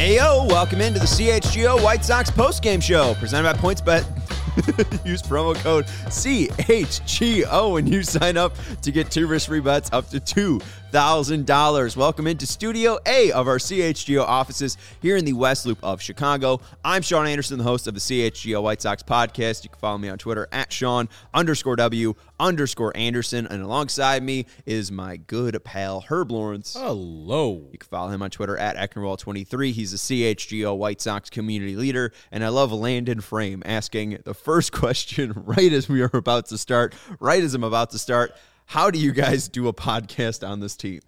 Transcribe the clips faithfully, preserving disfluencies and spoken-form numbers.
Heyo, welcome into the C H G O White Sox postgame show presented by PointsBet. Use promo code C H G O when you sign up to get two risk-free bets up to two thousand dollars. Welcome into Studio A of our C H G O offices here in the West Loop of Chicago. I'm Sean Anderson, the host of the C H G O White Sox podcast. You can follow me on Twitter at Sean underscore W underscore Anderson. And alongside me is my good pal, Herb Lawrence. Hello. You can follow him on Twitter at Ecknerwall twenty-three. He's a C H G O White Sox community leader. And I love Landon Frame asking the first question right as we are about to start, right as I'm about to start. How do you guys do a podcast on this team?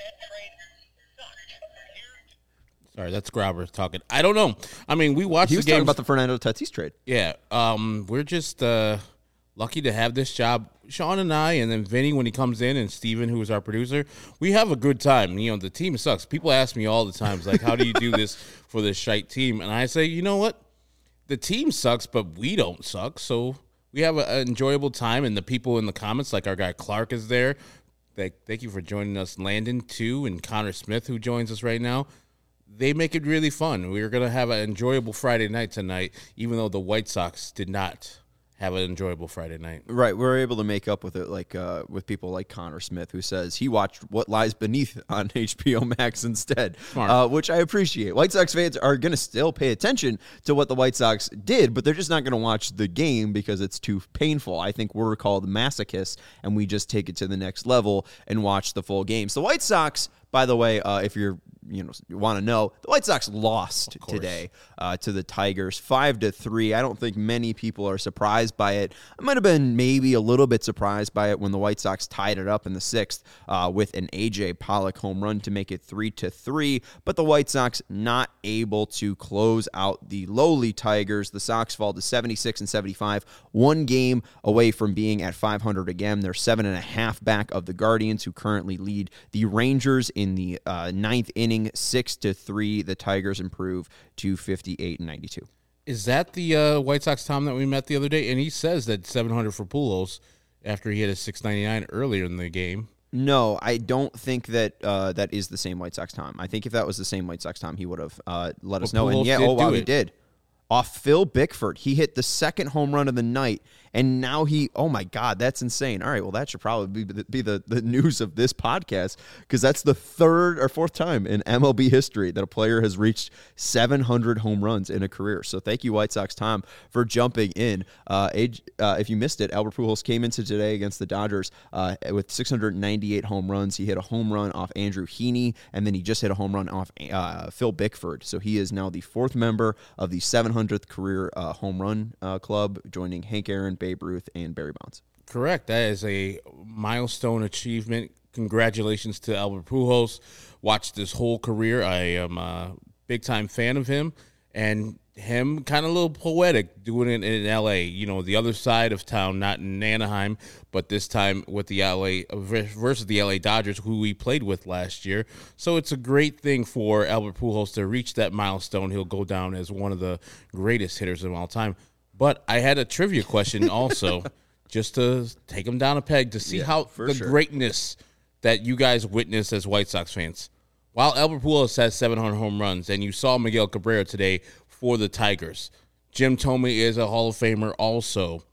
Sorry, that's Grauber talking. I don't know. I mean, we watched He was the game. talking about the Fernando Tatis trade. Yeah. Um, we're just uh, lucky to have this job. Sean and I, and then Vinny when he comes in, and Steven, who is our producer, we have a good time. You know, the team sucks. People ask me all the time, it's like, how do you do this for this shite team? And I say, you know what? The team sucks, but we don't suck, so we have an enjoyable time, and the people in the comments, like our guy Clark is there. Thank, thank you for joining us, Landon, too, and Connor Smith, who joins us right now. They make it really fun. We're going to have an enjoyable Friday night tonight, even though the White Sox did not have an enjoyable Friday night. Right, we're able to make up with it, like uh, with people like Connor Smith, who says he watched What Lies Beneath on H B O Max instead, uh, which I appreciate. White Sox fans are going to still pay attention to what the White Sox did, but they're just not going to watch the game because it's too painful. I think we're called masochists, and we just take it to the next level and watch the full game. So the White Sox, by the way, uh, if you're you know want to know, the White Sox lost today uh, to the Tigers five to three. I don't think many people are surprised by it. I might have been maybe a little bit surprised by it when the White Sox tied it up in the sixth uh, with an A J Pollock home run to make it three to three. But the White Sox not able to close out the lowly Tigers. The Sox fall to seventy-six and seventy-five, one game away from being at five hundred again. They're seven and a half back of the Guardians, who currently lead the Rangers in the uh, ninth inning. Six to three, the Tigers improve to fifty-eight and ninety-two. Is that the uh, White Sox Tom that we met the other day? And he says that seven hundred for Pujols after he hit a six ninety-nine earlier in the game. No, I don't think that uh, that is the same White Sox Tom. I think if that was the same White Sox Tom, he would have uh, let us well, know. Pujols And yeah, did oh wow, do he it. did. Off Phil Bickford. He hit the second home run of the night, and now he, oh my God, that's insane. All right, well, that should probably be the, be the, the news of this podcast, because that's the third or fourth time in M L B history that a player has reached seven hundred home runs in a career. So thank you, White Sox Tom, for jumping in. Uh, age, uh, if you missed it, Albert Pujols came into today against the Dodgers uh, with six hundred ninety-eight home runs. He hit a home run off Andrew Heaney, and then he just hit a home run off uh, Phil Bickford. So he is now the fourth member of the seven hundredth career uh, home run uh, club, joining Hank Aaron, Babe Ruth, and Barry Bonds. Correct. That is a milestone achievement. Congratulations to Albert Pujols. Watched his whole career. I am a big-time fan of him. And him kind of a little poetic doing it in L A. You know, the other side of town, not in Anaheim, but this time with the L A versus the L A Dodgers, who we played with last year. So it's a great thing for Albert Pujols to reach that milestone. He'll go down as one of the greatest hitters of all time. But I had a trivia question also, just to take him down a peg to see yeah, how the sure. greatness that you guys witness as White Sox fans. While Albert Pujols has seven hundred home runs, and you saw Miguel Cabrera today for the Tigers, Jim Thome is a Hall of Famer also,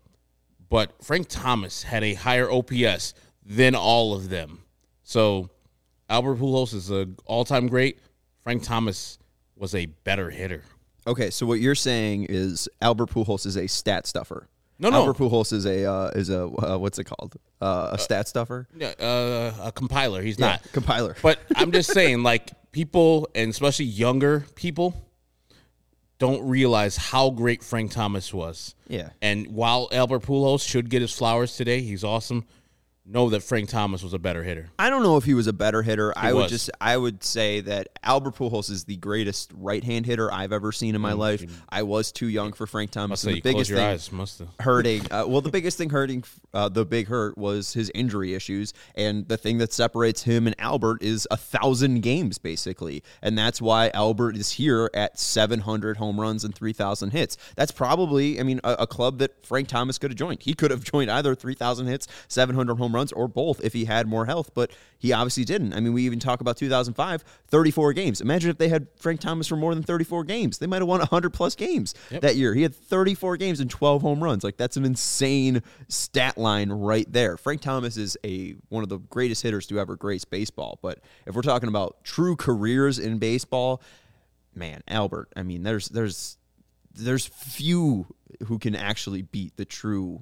but Frank Thomas had a higher O P S than all of them. So Albert Pujols is an all-time great. Frank Thomas was a better hitter. Okay, so what you're saying is Albert Pujols is a stat stuffer. No, no. Albert Pujols is a uh, is a uh, what's it called? Uh, a stat stuffer. Yeah, uh, a compiler. He's Yeah, not compiler. But I'm just saying, like, people, and especially younger people, don't realize how great Frank Thomas was. Yeah. And while Albert Pujols should get his flowers today, he's awesome. Know that Frank Thomas was a better hitter. I don't know if he was a better hitter. He I would was. just I would say that Albert Pujols is the greatest right-hand hitter I've ever seen in my Mm, life. you- I was too young for Frank Thomas. Must and say the you close biggest your thing eyes. Must have. hurting. Uh, well, the biggest thing hurting, uh, the big hurt was his injury issues, and the thing that separates him and Albert is a thousand games basically, and that's why Albert is here at seven hundred home runs and three thousand hits. That's probably, I mean, a, a club that Frank Thomas could have joined. He could have joined either three thousand hits, seven hundred home runs. runs or both if he had more health, but he obviously didn't. I mean, we even talk about two thousand five, thirty-four games. Imagine if they had Frank Thomas for more than thirty-four games. They might have won one hundred plus games yep. that year. He had thirty-four games and twelve home runs. Like, that's an insane stat line right there. Frank Thomas is a one of the greatest hitters to ever grace baseball. But if we're talking about true careers in baseball, man, Albert, I mean, there's there's there's few who can actually beat the true,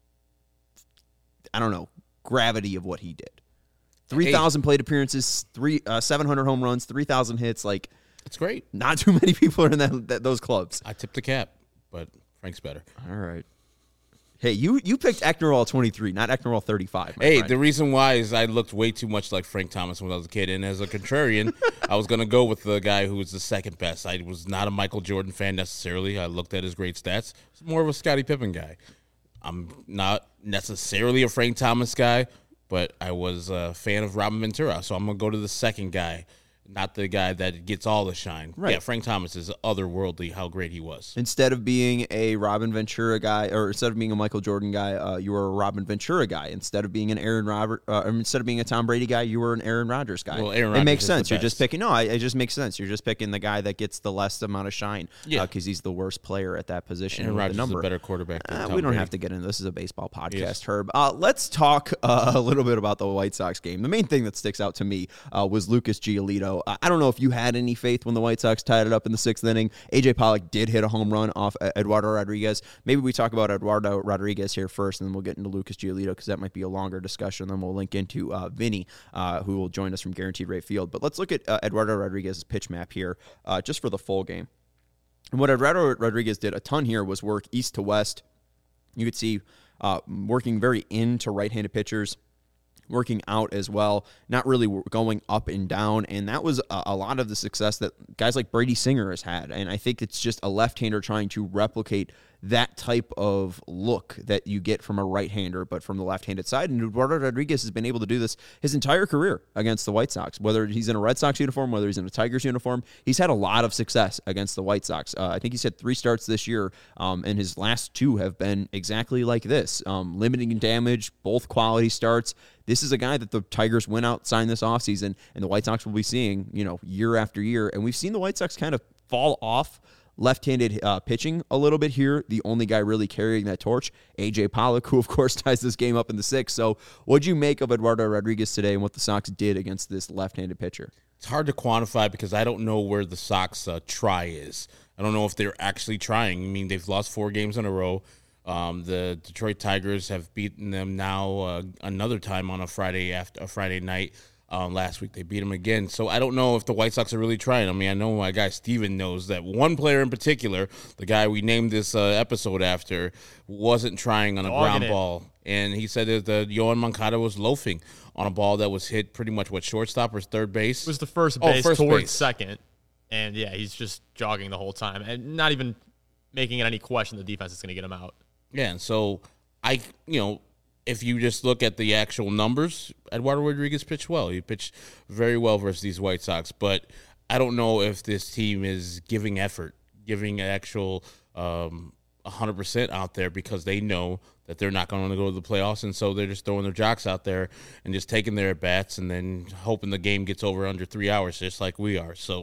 I don't know, gravity of what he did. three thousand plate appearances, three uh, seven hundred home runs, three thousand hits. Like, it's great. Not too many people are in that, that those clubs. I tipped the cap, but Frank's better. All right. Hey, you you picked Eknerall twenty-three, not Eknerall thirty-five. Hey, friend. The reason why is I looked way too much like Frank Thomas when I was a kid, and as a contrarian, I was going to go with the guy who was the second best. I was not a Michael Jordan fan necessarily. I looked at his great stats. I was more of a Scottie Pippen guy. I'm not necessarily a Frank Thomas guy, but I was a fan of Robin Ventura, so I'm going to go to the second guy, not the guy that gets all the shine. Right. Yeah, Frank Thomas is otherworldly how great he was. Instead of being a Robin Ventura guy, or instead of being a Michael Jordan guy, uh, you were a Robin Ventura guy. Instead of being an Aaron Robert, uh, instead of being a Tom Brady guy, you were an Aaron Rodgers guy. Well, Aaron Rodgers it makes is sense. the You're just best. picking. No, I, it just makes sense. You're just picking the guy that gets the less amount of shine. Yeah, because uh, he's the worst player at that position. Aaron with Rodgers the number. is a better quarterback than Uh, Tom we don't Brady. have to get into this. This is a baseball podcast, Yes. Herb. Uh, let's talk uh, a little bit about the White Sox game. The main thing that sticks out to me uh, was Lucas Giolito. Uh, I don't know if you had any faith when the White Sox tied it up in the sixth inning. A J Pollock did hit a home run off Eduardo Rodriguez. Maybe we talk about Eduardo Rodriguez here first, and then we'll get into Lucas Giolito because that might be a longer discussion. Then we'll link into uh, Vinny, uh, who will join us from Guaranteed Rate Field. But let's look at uh, Eduardo Rodriguez's pitch map here uh, just for the full game. And what Eduardo Rodriguez did a ton here was work east to west. You could see uh, working very into right-handed pitchers, working out as well, not really going up and down. And that was a, a lot of the success that guys like Brady Singer has had. And I think it's just a left-hander trying to replicate that type of look that you get from a right-hander, but from the left-handed side. And Eduardo Rodriguez has been able to do this his entire career against the White Sox. Whether he's in a Red Sox uniform, whether he's in a Tigers uniform, he's had a lot of success against the White Sox. Uh, I think he's had three starts this year, um, and his last two have been exactly like this. Um, limiting damage, both quality starts. This is a guy that the Tigers went out, signed this offseason, and the White Sox will be seeing, you know, year after year. And we've seen the White Sox kind of fall off left-handed uh, pitching a little bit here. The only guy really carrying that torch, A J Pollock, who, of course, ties this game up in the sixth. So what'd you make of Eduardo Rodriguez today and what the Sox did against this left-handed pitcher? It's hard to quantify because I don't know where the Sox uh, try is. I don't know if they're actually trying. I mean, they've lost four games in a row. Um, the Detroit Tigers have beaten them now uh, another time on a Friday after a Friday night. Um, last week they beat them again. So I don't know if the White Sox are really trying. I mean, I know my guy Steven knows that one player in particular, the guy we named this uh, episode after, wasn't trying on a Dogging ground it. ball. And he said that the Yohan Moncada was loafing on a ball that was hit pretty much what, shortstop or third base? It was the first Oh, base first towards base. second. And, yeah, he's just jogging the whole time and not even making it any question the defense is going to get him out. Yeah, and so I, you know, if you just look at the actual numbers, Eduardo Rodriguez pitched well. He pitched very well versus these White Sox, but I don't know if this team is giving effort, giving actual um, one hundred percent out there because they know that they're not going to go to the playoffs, and so they're just throwing their jocks out there and just taking their at-bats and then hoping the game gets over under three hours, just like we are. So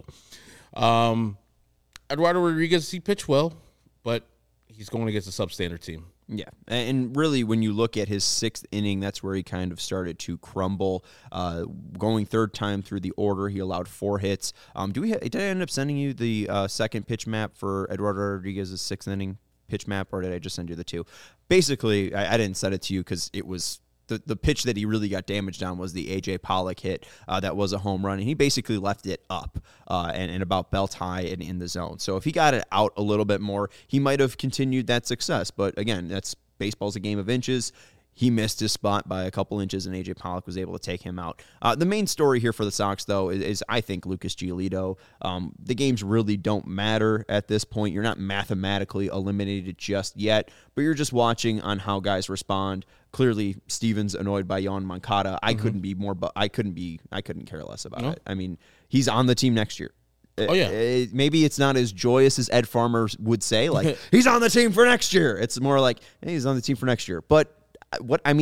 um, Eduardo Rodriguez, he pitched well, but he's going against a substandard team. Yeah, and really, when you look at his sixth inning, that's where he kind of started to crumble. Uh, going third time through the order, he allowed four hits. Um, do we? Ha- did I end up sending you the uh, second pitch map for Eduardo Rodriguez's sixth inning pitch map, or did I just send you the two? Basically, I, I didn't send it to you because it was. The, the pitch that he really got damaged on was the A J Pollock hit uh, that was a home run, and he basically left it up uh, and, and about belt high and in the zone. So if he got it out a little bit more, he might have continued that success. But again, that's baseball's a game of inches. He missed his spot by a couple inches, and A J Pollock was able to take him out. Uh, the main story here for the Sox, though, is, is I think Lucas Giolito. Um, the games really don't matter at this point. You're not mathematically eliminated just yet, but you're just watching on how guys respond. Clearly, Steven's annoyed by Yohan Moncada. I mm-hmm. couldn't be more, but I couldn't be. I couldn't care less about no. it. I mean, he's on the team next year. Oh, yeah. It, maybe it's not as joyous as Ed Farmer would say, like, he's on the team for next year. It's more like, hey, he's on the team for next year. But what I mean,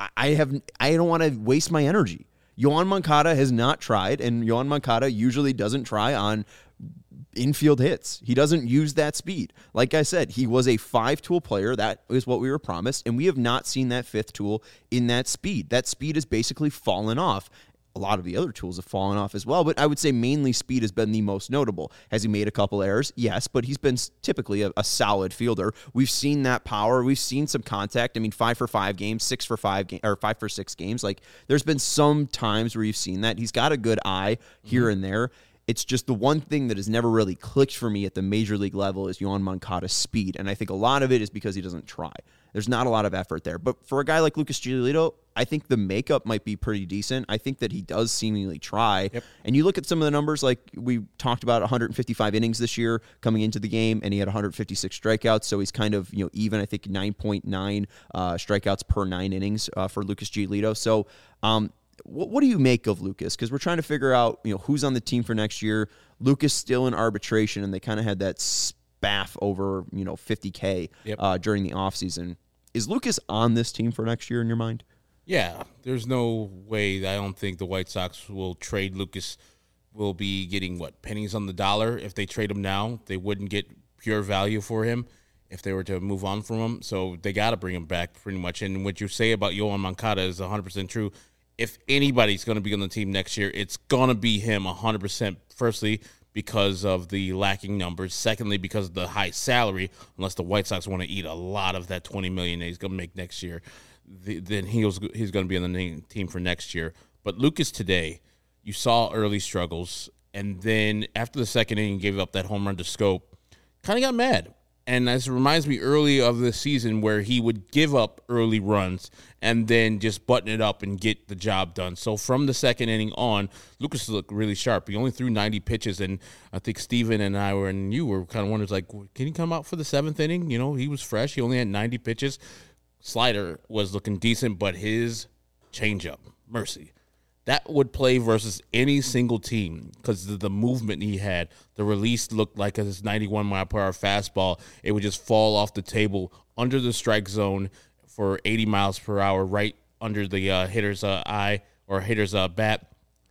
I have I don't want to waste my energy. Yohan Moncada has not tried, and Yohan Moncada usually doesn't try on infield hits. He doesn't use that speed. Like I said, he was a five-tool player. That is what we were promised, and we have not seen that fifth tool in that speed. That speed has basically fallen off. A lot of the other tools have fallen off as well, but I would say mainly speed has been the most notable. Has he made a couple errors? Yes, but he's been typically a, a solid fielder. We've seen that power. We've seen some contact. I mean, five for five games, six for five game, or five for six games. Like, there's been some times where you've seen that. He's got a good eye here mm-hmm. and there. It's just the one thing that has never really clicked for me at the major league level is Yohan Moncada's speed, and I think a lot of it is because he doesn't try. There's not a lot of effort there. But for a guy like Lucas Giolito, I think the makeup might be pretty decent. I think that he does seemingly try. Yep. And you look at some of the numbers, like we talked about one hundred fifty-five innings this year coming into the game, and he had one hundred fifty-six strikeouts. So he's kind of, you know, even, I think, nine point nine uh, strikeouts per nine innings uh, for Lucas Giolito. So um, what, what do you make of Lucas? Because we're trying to figure out, you know, who's on the team for next year. Lucas still in arbitration, and they kind of had that spaff over, you know, fifty K yep. uh, during the offseason. Is Lucas on this team for next year in your mind? Yeah, there's no way. I don't think the White Sox will trade Lucas. Will be getting, what, pennies on the dollar. If they trade him now, they wouldn't get pure value for him if they were to move on from him. So they got to bring him back pretty much. And what you say about Yohan Moncada is one hundred percent true. If anybody's going to be on the team next year, it's going to be him one hundred percent. Firstly, because of the lacking numbers. Secondly, because of the high salary, unless the White Sox want to eat a lot of that twenty million dollars that he's going to make next year, the, then he was, he's going to be on the team for next year. But Lucas today, you saw early struggles, and then after the second inning, gave up that home run to Scope, kind of got mad. And this reminds me early of the season where he would give up early runs and then just button it up and get the job done. So from the second inning on, Lucas looked really sharp. He only threw ninety pitches, and I think Steven and I were, and you were kind of wondering, like, can he come out for the seventh inning? You know, he was fresh. He only had ninety pitches. Slider was looking decent, but his changeup, mercy. That would play versus any single team because of the movement he had. The release looked like a ninety-one mile per hour fastball. It would just fall off the table under the strike zone for eighty miles per hour, right under the uh, hitter's uh, eye or hitter's uh, bat.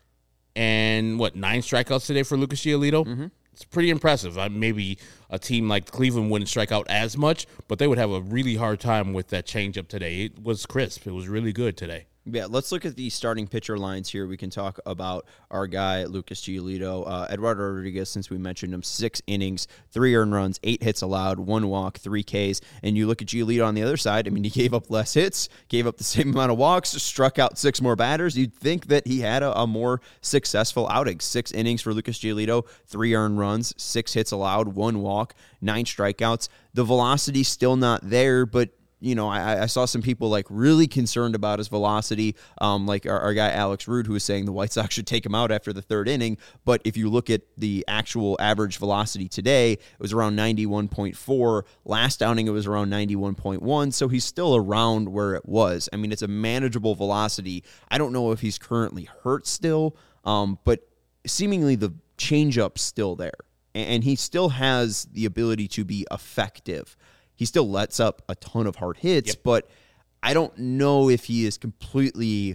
And what, nine strikeouts today for Lucas Giolito? Mm-hmm. It's pretty impressive. Uh, maybe a team like Cleveland wouldn't strike out as much, but they would have a really hard time with that changeup today. It was crisp. It was really good today. Yeah, let's look at the starting pitcher lines here. We can talk about our guy, Lucas Giolito. Uh, Eduardo Rodriguez, since we mentioned him, six innings, three earned runs, eight hits allowed, one walk, three Ks. And you look at Giolito on the other side, I mean, he gave up less hits, gave up the same amount of walks, struck out six more batters. You'd think that he had a, a more successful outing. Six innings for Lucas Giolito, three earned runs, six hits allowed, one walk, nine strikeouts. The velocity's still not there, but you know, I, I saw some people like really concerned about his velocity, um, like our, our guy Alex Rude, who was saying the White Sox should take him out after the third inning. But if you look at the actual average velocity today, it was around ninety-one point four. Last outing, it was around ninety-one point one. So he's still around where it was. I mean, it's a manageable velocity. I don't know if he's currently hurt still, um, but seemingly the changeup's still there. And he still has the ability to be effective. He still lets up a ton of hard hits, yep. but I don't know if he is completely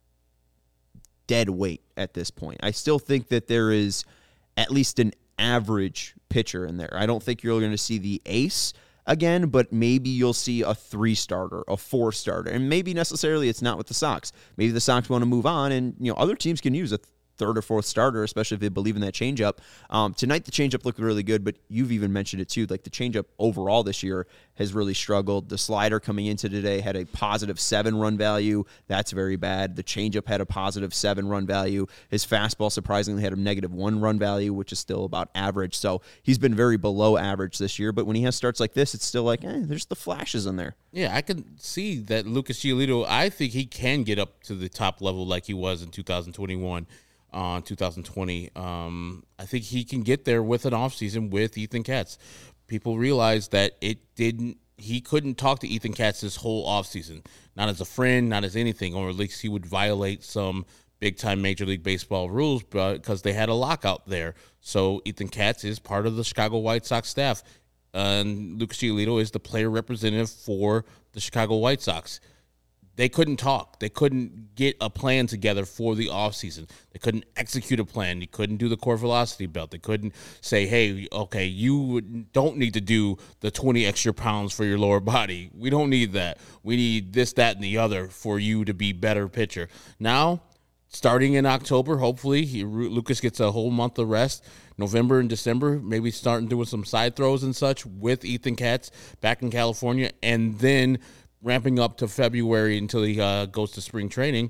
dead weight at this point. I still think that there is at least an average pitcher in there. I don't think you're going to see the ace again, but maybe you'll see a three-starter, a four-starter, and maybe necessarily it's not with the Sox. Maybe the Sox want to move on, and you know other teams can use a third or fourth starter, especially if they believe in that changeup. Um, tonight, the changeup looked really good, but you've even mentioned it too. Like the changeup overall this year has really struggled. The slider coming into today had a positive seven run value. That's very bad. The changeup had a positive seven run value. His fastball surprisingly had a negative one run value, which is still about average. So he's been very below average this year. But when he has starts like this, it's still like, eh, there's the flashes in there. Yeah, I can see that Lucas Giolito, I think he can get up to the top level like he was in two thousand twenty-one. Uh, two thousand twenty. Um, I think he can get there with an offseason with Ethan Katz. People realize that it didn't, he couldn't talk to Ethan Katz this whole offseason, not as a friend, not as anything, or at least he would violate some big-time Major League Baseball rules because they had a lockout there. So Ethan Katz is part of the Chicago White Sox staff, and Lucas Giolito is the player representative for the Chicago White Sox. they couldn't talk. They couldn't get a plan together for the offseason. They couldn't execute a plan. They couldn't do the core velocity belt. They couldn't say, hey, okay, you don't need to do the twenty extra pounds for your lower body. We don't need that. We need this, that, and the other for you to be better pitcher. Now, starting in October, hopefully, he, Lucas gets a whole month of rest. November and December, maybe starting doing some side throws and such with Ethan Katz back in California, and then ramping up to February until he uh, goes to spring training.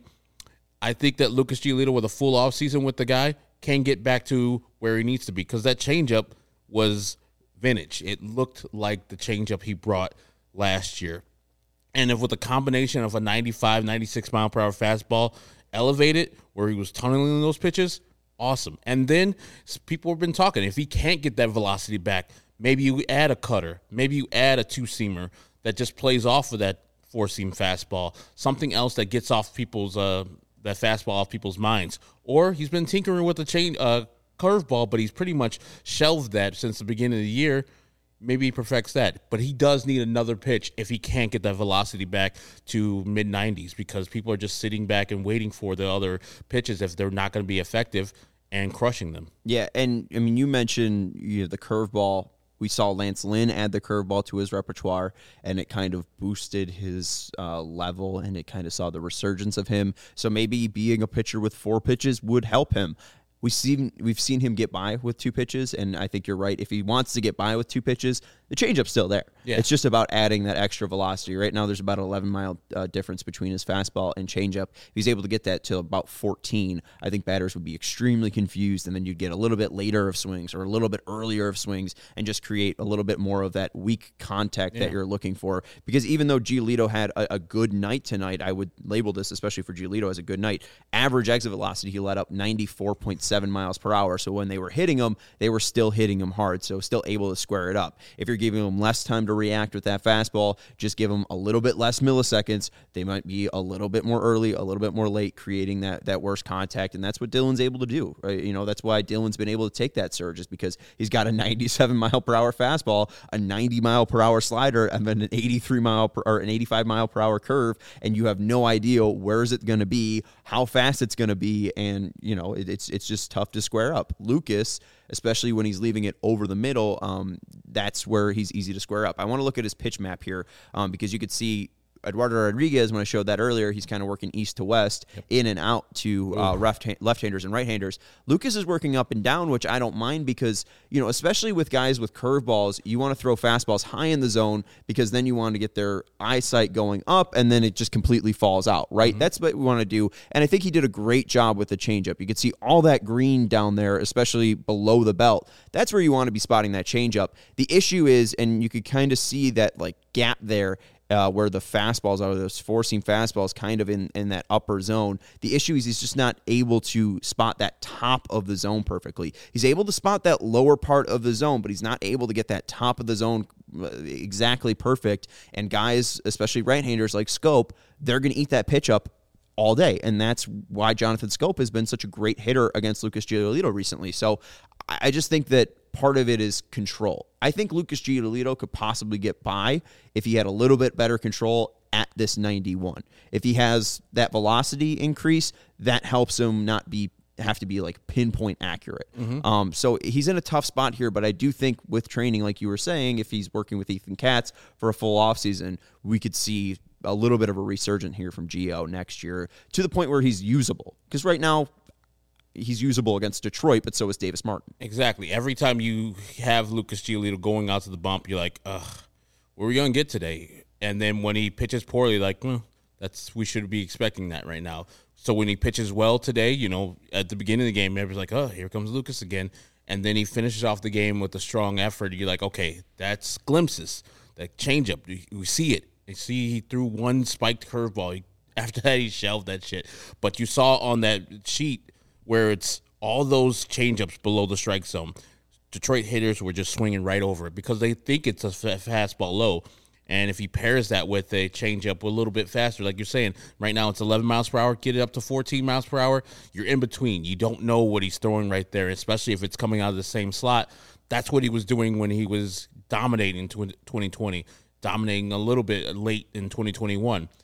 I think that Lucas Giolito with a full offseason with the guy can get back to where he needs to be, because that changeup was vintage. It looked like the changeup he brought last year. And if with a combination of a ninety-five, ninety-six mile per hour fastball elevated where he was tunneling those pitches, awesome. And then people have been talking, if he can't get that velocity back, maybe you add a cutter, maybe you add a two-seamer that just plays off of that four-seam fastball, something else that gets off people's uh, that fastball off people's minds. Or he's been tinkering with the chain uh, curveball, but he's pretty much shelved that since the beginning of the year. Maybe he perfects that. But he does need another pitch if he can't get that velocity back to mid nineties, because people are just sitting back and waiting for the other pitches if they're not going to be effective and crushing them. Yeah, and, I mean, you mentioned you know, the curveball. We saw Lance Lynn add the curveball to his repertoire, and it kind of boosted his uh, level, and it kind of saw the resurgence of him. So maybe being a pitcher with four pitches would help him. We've seen, we've seen him get by with two pitches, and I think you're right. If he wants to get by with two pitches, the changeup's still there. Yeah. It's just about adding that extra velocity. Right now, there's about an eleven-mile uh, difference between his fastball and changeup. If he's able to get that to about fourteen, I think batters would be extremely confused, and then you'd get a little bit later of swings or a little bit earlier of swings and just create a little bit more of that weak contact yeah. that you're looking for. Because even though Giolito had a, a good night tonight, I would label this, especially for Giolito, as a good night. Average exit velocity, he let up ninety-four point seven miles per hour. So when they were hitting him, they were still hitting him hard, so still able to square it up. If you're giving him less time to react with that fastball, just give him a little bit less milliseconds. They might be a little bit more early, a little bit more late, creating that that worse contact, and that's what Dylan's able to do. Right? You know, that's why Dylan's been able to take that surge, is because he's got a ninety-seven mile per hour fastball, a ninety mile per hour slider, and then an eighty-three mile per, or an eighty-five mile per hour curve, and you have no idea where is it going to be, how fast it's going to be, and you know it, it's it's just tough to square up. Lucas, especially when he's leaving it over the middle, um, that's where he's easy to square up. I want to look at his pitch map here um, because you could see Eduardo Rodriguez, when I showed that earlier, he's kind of working east to west, yep. in and out to uh, left-handers and right-handers. Lucas is working up and down, which I don't mind because, you know, especially with guys with curveballs, you want to throw fastballs high in the zone because then you want to get their eyesight going up and then it just completely falls out, right? Mm-hmm. That's what we want to do. And I think he did a great job with the changeup. You could see all that green down there, especially below the belt. That's where you want to be spotting that changeup. The issue is, and you could kind of see that like gap there, Uh, where the fastballs are, those four-seam fastballs kind of in, in that upper zone. The issue is he's just not able to spot that top of the zone perfectly. He's able to spot that lower part of the zone, but he's not able to get that top of the zone exactly perfect. And guys, especially right-handers like Scope, they're going to eat that pitch up all day. And that's why Jonathan Scope has been such a great hitter against Lucas Giolito recently. So I just think that part of it is control. I think Lucas Giolito could possibly get by if he had a little bit better control at this ninety-one. If he has that velocity increase, that helps him not be have to be like pinpoint accurate. Mm-hmm. Um, so he's in a tough spot here, but I do think with training, like you were saying, if he's working with Ethan Katz for a full offseason, we could see a little bit of a resurgence here from Gio next year to the point where he's usable. Because right now, he's usable against Detroit, but so is Davis Martin. Exactly. Every time you have Lucas Giolito going out to the bump, you're like, ugh, what are we going to get today? And then when he pitches poorly, like, well, that's we should be expecting that right now. So when he pitches well today, you know, at the beginning of the game, everybody's like, oh, here comes Lucas again. And then he finishes off the game with a strong effort. You're like, okay, that's glimpses. That changeup, we see it. You see he threw one spiked curveball. After that, he shelved that shit. But you saw on that sheet where it's all those changeups below the strike zone. Detroit hitters were just swinging right over it because they think it's a fastball low. And if he pairs that with a changeup a little bit faster, like you're saying, right now it's eleven miles per hour, get it up to fourteen miles per hour, you're in between. You don't know what he's throwing right there, especially if it's coming out of the same slot. That's what he was doing when he was dominating twenty twenty, dominating a little bit late in twenty twenty-one.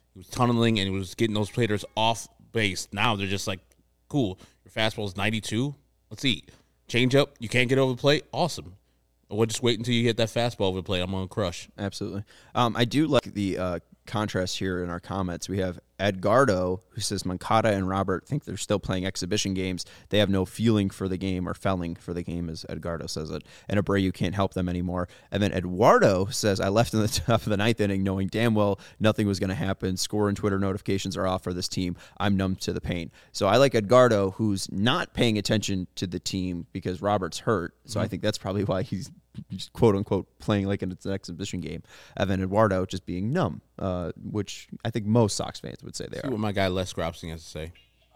He was tunneling, and he was getting those players off base. Now they're just like, cool, your fastball is ninety-two. Let's see. Change up, you can't get over the plate. Awesome. We'll just wait until you get that fastball over the plate. I'm going to crush. Absolutely. Um, I do like the uh, contrast here in our comments. We have Edgardo, who says Moncada and Robert think they're still playing exhibition games. They have no feeling for the game, or felling for the game, as Edgardo says it. And Abreu can't help them anymore. And then Eduardo says, I left in the top of the ninth inning knowing damn well nothing was going to happen. Score and Twitter notifications are off for this team. I'm numb to the pain. So I like Edgardo, who's not paying attention to the team because Robert's hurt. So mm-hmm. I think that's probably why he's just quote unquote playing like it's an exhibition game. Evan Eduardo just being numb, uh, which I think most Sox fans would say they See are. what my guy Les Gropsing has to say.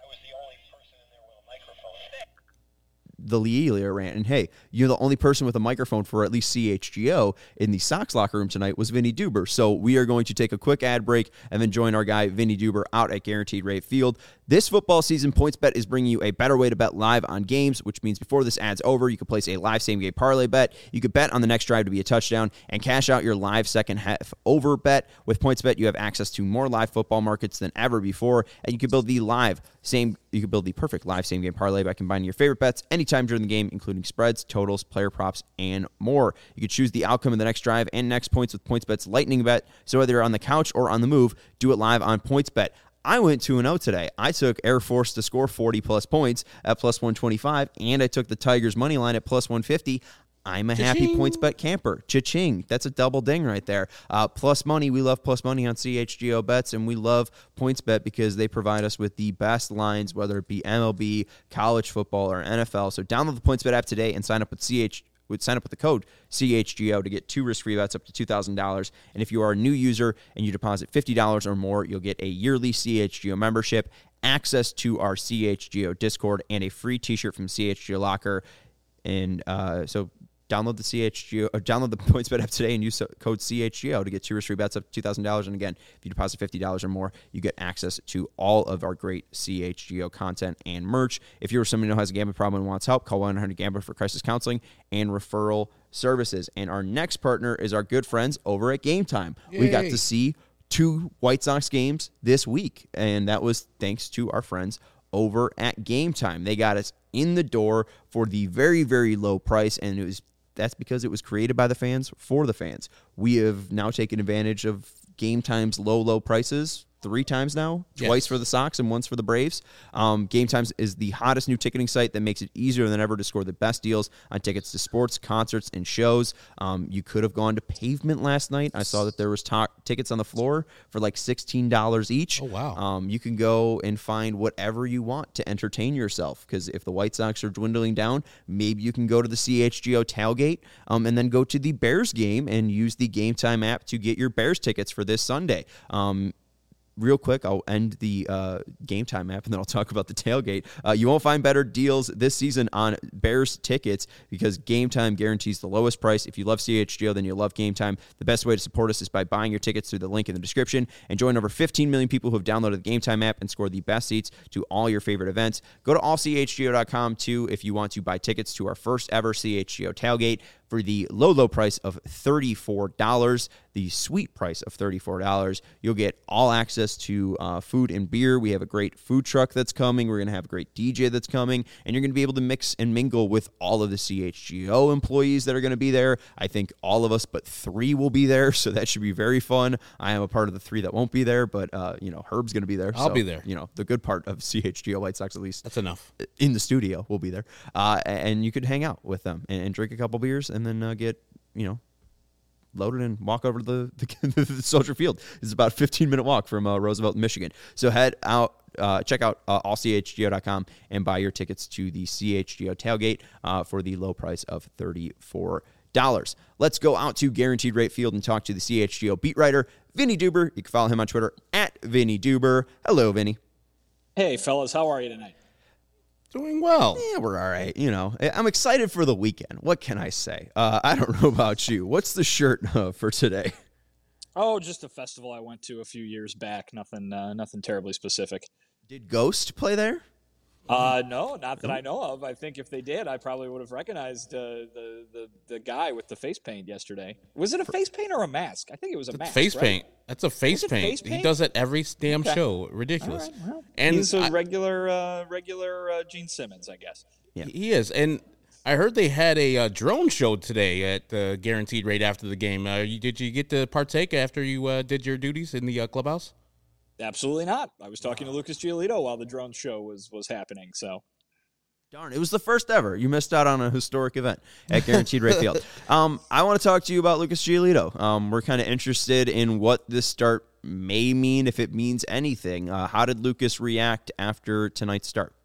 The Lealia rant. And hey, you're the only person with a microphone for at least C H G O in the Sox locker room tonight was Vinny Duber. So we are going to take a quick ad break and then join our guy Vinny Duber out at Guaranteed Rate Field. This football season, PointsBet is bringing you a better way to bet live on games, which means before this ad's over, you can place a live same-game parlay bet. You could bet on the next drive to be a touchdown and cash out your live second half over bet. With PointsBet, you have access to more live football markets than ever before, and you can build the live same. You can build the perfect live same-game parlay by combining your favorite bets anytime during the game, including spreads, totals, player props, and more. You can choose the outcome of the next drive and next points with PointsBet's Lightning Bet. So whether you're on the couch or on the move, do it live on PointsBet. I went two and oh today. I took Air Force to score forty-plus points at plus one twenty-five, and I took the Tigers' money line at plus one fifty. I'm a Cha-ching. Happy PointsBet camper. Cha-ching. That's a double ding right there. Uh, plus money. We love plus money on C H G O bets, and we love PointsBet because they provide us with the best lines, whether it be M L B, college football, or N F L. So download the PointsBet app today and sign up with C H. Would sign up with the code C H G O to get two risk-free bets up to two thousand dollars. And if you are a new user and you deposit fifty dollars or more, you'll get a yearly C H G O membership, access to our C H G O Discord, and a free t-shirt from C H G O Locker. And uh, so download the C H G O, or download the PointsBet app today and use code C H G O to get two risk-free bets up to two thousand dollars. And again, if you deposit fifty dollars or more, you get access to all of our great C H G O content and merch. If you're someone who has a gambling problem and wants help, call one eight hundred gambler for crisis counseling and referral services. And our next partner is our good friends over at Game Time. Yay. We got to see two White Sox games this week, and that was thanks to our friends over at Game Time. They got us in the door for the very, very low price, and it was that's because it was created by the fans for the fans. We have now taken advantage of Game Time's low, low prices three times now, yes. Twice for the Sox and once for the Braves. Um, Game Times is the hottest new ticketing site that makes it easier than ever to score the best deals on tickets to sports, concerts, and shows. Um, you could have gone to Pavement last night. I saw that there was ta- tickets on the floor for like sixteen dollars each. Oh, wow. Um, you can go and find whatever you want to entertain yourself, because if the White Sox are dwindling down, maybe you can go to the C H G O tailgate um, and then go to the Bears game and use the Game Time app to get your Bears tickets for this Sunday. Um, Real quick, I'll end the uh, Game Time app, and then I'll talk about the tailgate. Uh, you won't find better deals this season on Bears tickets because Game Time guarantees the lowest price. If you love C H G O, then you'll love Game Time. The best way to support us is by buying your tickets through the link in the description and join over fifteen million people who have downloaded the Game Time app and scored the best seats to all your favorite events. Go to all c h g o dot com, too, if you want to buy tickets to our first ever C H G O tailgate for the low, low price of thirty-four dollars, the sweet price of thirty-four dollars. You'll get all access to uh, food and beer. We have a great food truck that's coming. We're going to have a great D J that's coming, and you're going to be able to mix and mingle with all of the C H G O employees that are going to be there. I think all of us but three will be there, so that should be very fun. I am a part of the three that won't be there, but uh, you know, Herb's going to be there. I'll so, be there. You know, the good part of C H G O White Sox, at least. That's enough. In the studio, we'll be there. Uh, and you could hang out with them and, and drink a couple beers and then uh, get, you know, loaded and walk over to the, the, the Soldier Field. It's about a fifteen-minute walk from uh, Roosevelt, Michigan. So head out, uh, check out uh, all c h g o dot com and buy your tickets to the C H G O tailgate uh, for the low price of thirty-four dollars. Let's go out to Guaranteed Rate Field and talk to the C H G O beat writer, Vinny Duber. You can follow him on Twitter at Vinny Duber. Hello, Vinny. Hey, fellas. How are you tonight? Doing well. Yeah, we're all right. You know, I'm excited for the weekend. What can I say? Uh, I don't know about you. What's the shirt uh, for today? Oh, just a festival I went to a few years back. Nothing, uh, nothing terribly specific. Did Ghost play there? Uh, no, not that I know of. I think if they did, I probably would have recognized uh, the the the guy with the face paint yesterday. Was it a face paint or a mask? I think it was a That's mask. face right? paint. That's a face Was it paint. face He paint? does it every damn Okay. show. Ridiculous. All right, well, And he's a I- regular uh, regular uh, Gene Simmons, I guess. Yeah. He is. And I heard they had a uh, drone show today at uh, Guaranteed Rate after the game. Uh, you, did you get to partake after you uh, did your duties in the uh, clubhouse? Absolutely not. I was talking to Lucas Giolito while the drone show was was happening. So. Darn, it was the first ever. You missed out on a historic event at Guaranteed Rate Field. Um, I want to talk to you about Lucas Giolito. Um, we're kind of interested in what this start may mean, if it means anything. Uh, how did Lucas react after tonight's start?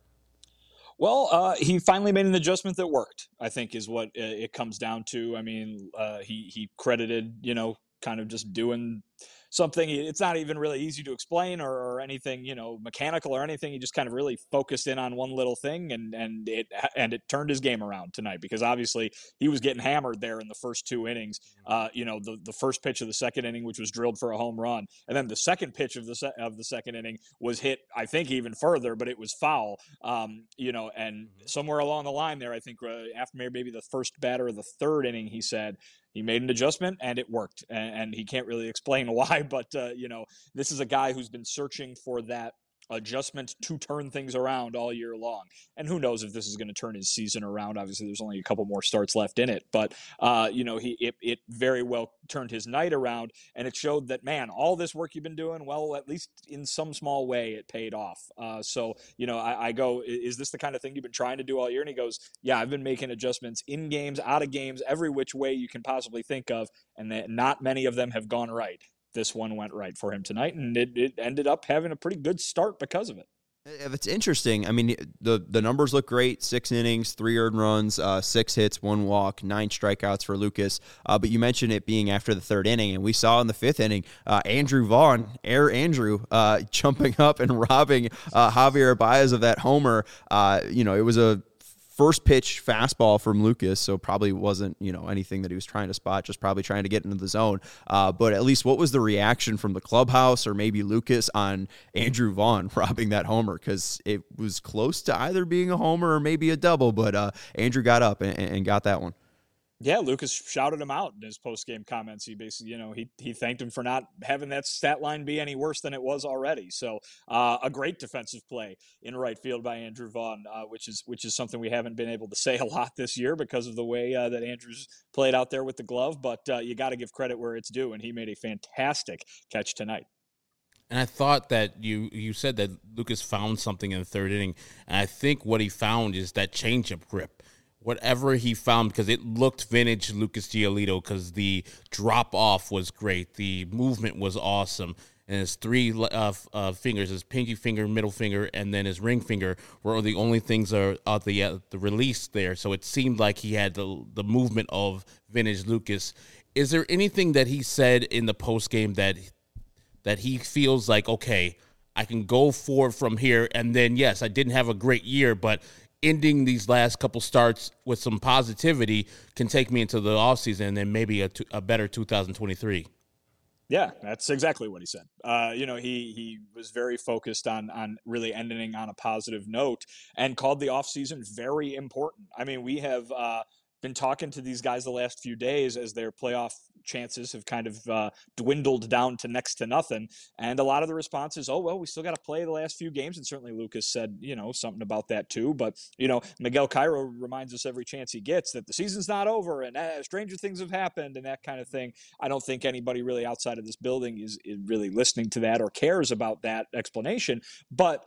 Well, uh, he finally made an adjustment that worked, I think, is what it comes down to. I mean, uh, he he credited, you know, kind of just doing something. It's not even really easy to explain or, or anything, you know, mechanical or anything. He just kind of really focused in on one little thing, and and it and it turned his game around tonight, because obviously he was getting hammered there in the first two innings. Uh, you know, the the first pitch of the second inning, which was drilled for a home run, and then the second pitch of the se- of the second inning was hit, I think, even further, but it was foul. Um, you know, and somewhere along the line there, I think uh, after maybe the first batter of the third inning, he said he made an adjustment and it worked, and, and he can't really explain why, but uh, you know, this is a guy who's been searching for that adjustment to turn things around all year long. And who knows if this is going to turn his season around. Obviously, there's only a couple more starts left in it, but uh, you know, he it, it very well turned his night around, and it showed that, man, all this work you've been doing, well, at least in some small way, it paid off. Uh, so, you know, I, I go, is this the kind of thing you've been trying to do all year? And he goes, yeah, I've been making adjustments in games, out of games, every which way you can possibly think of, and that not many of them have gone right. This one went right for him tonight, and it, it ended up having a pretty good start because of it. If it's interesting, I mean, the the numbers look great. Six innings, three earned runs, uh, six hits, one walk, nine strikeouts for Lucas. Uh, but you mentioned it being after the third inning, and we saw in the fifth inning, uh, Andrew Vaughn, Air Andrew, uh, jumping up and robbing uh, Javier Baez of that homer. Uh, you know, it was a first pitch fastball from Lucas, so probably wasn't, you know, anything that he was trying to spot, just probably trying to get into the zone. Uh, but at least what was the reaction from the clubhouse or maybe Lucas on Andrew Vaughn robbing that homer? Because it was close to either being a homer or maybe a double, but uh, Andrew got up and, and got that one. Yeah, Lucas shouted him out in his post-game comments. He basically, you know, he he thanked him for not having that stat line be any worse than it was already. So uh, a great defensive play in right field by Andrew Vaughn, uh, which is which is something we haven't been able to say a lot this year because of the way uh, that Andrew's played out there with the glove. But uh, you got to give credit where it's due, and he made a fantastic catch tonight. And I thought that you you said that Lucas found something in the third inning, and I think what he found is that changeup grip. Whatever he found, because it looked vintage Lucas Giolito, because the drop off was great, the movement was awesome, and his three uh, uh, fingers, his pinky finger, middle finger, and then his ring finger were the only things that are uh, the uh, the release there. So it seemed like he had the the movement of vintage Lucas. Is there anything that he said in the post game that that he feels like, okay, I can go forward from here, and then yes, I didn't have a great year, but ending these last couple starts with some positivity can take me into the offseason and then maybe a, a better two thousand twenty-three. Yeah, that's exactly what he said. Uh, you know, he he was very focused on on really ending on a positive note and called the offseason very important. I mean, we have uh, been talking to these guys the last few days as their playoff chances have kind of uh, dwindled down to next to nothing. And a lot of the response is, oh, well, we still got to play the last few games. And certainly Lucas said, you know, something about that too. But, you know, Miguel Cairo reminds us every chance he gets that the season's not over and uh, stranger things have happened and that kind of thing. I don't think anybody really outside of this building is, is really listening to that or cares about that explanation. But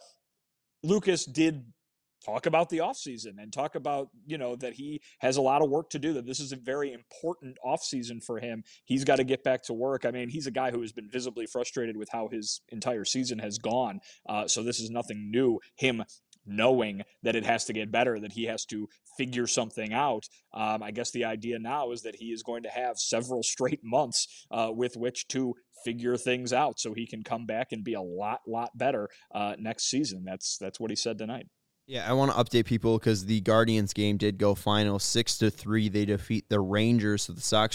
Lucas did talk about the offseason and talk about, you know, that he has a lot of work to do, that this is a very important offseason for him. He's got to get back to work. I mean, he's a guy who has been visibly frustrated with how his entire season has gone. Uh, so this is nothing new. Him knowing that it has to get better, that he has to figure something out. Um, I guess the idea now is that he is going to have several straight months uh, with which to figure things out so he can come back and be a lot, lot better uh, next season. That's, that's what he said tonight. Yeah, I want to update people because the Guardians game did go final six to three. They defeat the Rangers, so the Sox are now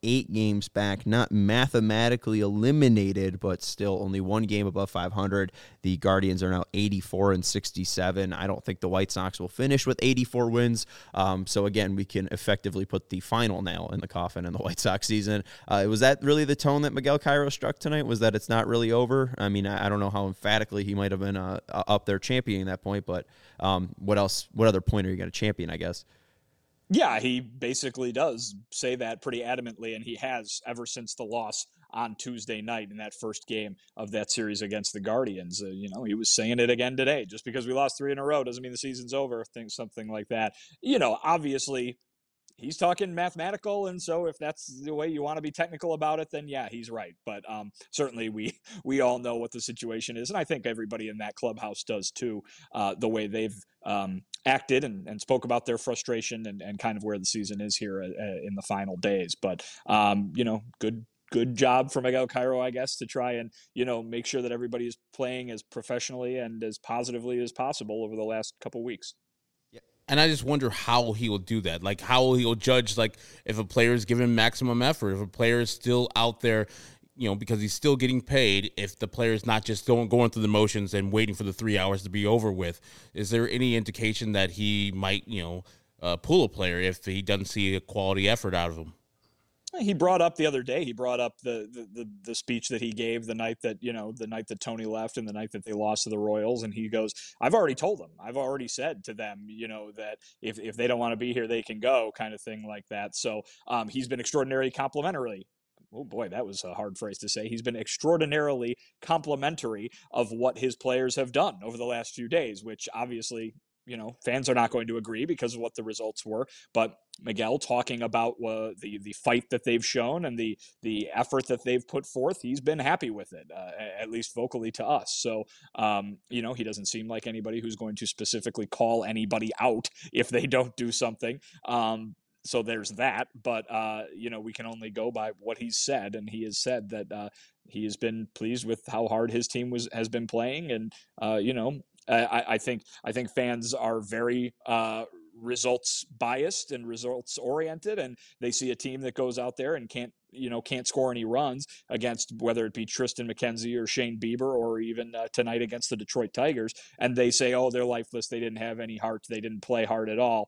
eight games back, not mathematically eliminated, but still only one game above five hundred. The Guardians are now eighty-four and sixty-seven. I don't think the White Sox will finish with eighty-four wins. Um, so again, we can effectively put the final nail in the coffin in the White Sox season. Uh, was that really the tone that Miguel Cairo struck tonight? Was that it's not really over? I mean, I, I don't know how emphatically he might have been uh, up there championing that point, but um, what else? What other point are you going to champion, I guess? Yeah, he basically does say that pretty adamantly, and he has ever since the loss on Tuesday night in that first game of that series against the Guardians. Uh, you know, he was saying it again today. Just because we lost three in a row doesn't mean the season's over, things, something like that. You know, obviously, he's talking mathematical, and so if that's the way you want to be technical about it, then yeah, he's right. But um, certainly we we all know what the situation is, and I think everybody in that clubhouse does too, uh, the way they've um, acted and, and spoke about their frustration and, and kind of where the season is here uh, in the final days. But, um, you know, good good job for Miguel Cairo, I guess, to try and, you know, make sure that everybody is playing as professionally and as positively as possible over the last couple weeks. And I just wonder how he will do that. Like, how he'll judge, like, if a player is giving maximum effort, if a player is still out there, you know, because he's still getting paid, if the player is not just going, going through the motions and waiting for the three hours to be over with. Is there any indication that he might, you know, uh, pull a player if he doesn't see a quality effort out of him? He brought up the other day, he brought up the, the, the, the speech that he gave the night that, you know, the night that Tony left and the night that they lost to the Royals. And he goes, I've already told them, I've already said to them, you know, that if, if they don't want to be here, they can go, kind of thing like that. So um, he's been extraordinarily complimentary. Oh boy, that was a hard phrase to say. He's been extraordinarily complimentary of what his players have done over the last few days, which obviously, you know, fans are not going to agree because of what the results were. But Miguel talking about uh, the the fight that they've shown and the the effort that they've put forth, he's been happy with it, uh, at least vocally to us. So, um, you know, he doesn't seem like anybody who's going to specifically call anybody out if they don't do something. Um, so there's that. But, uh, you know, we can only go by what he's said. And he has said that uh, he has been pleased with how hard his team was has been playing. And, uh, you know, I, I think I think fans are very uh, results biased and results oriented, and they see a team that goes out there and can't you know can't score any runs against whether it be Tristan McKenzie or Shane Bieber or even uh, tonight against the Detroit Tigers, and they say, oh, they're lifeless, they didn't have any heart, they didn't play hard at all.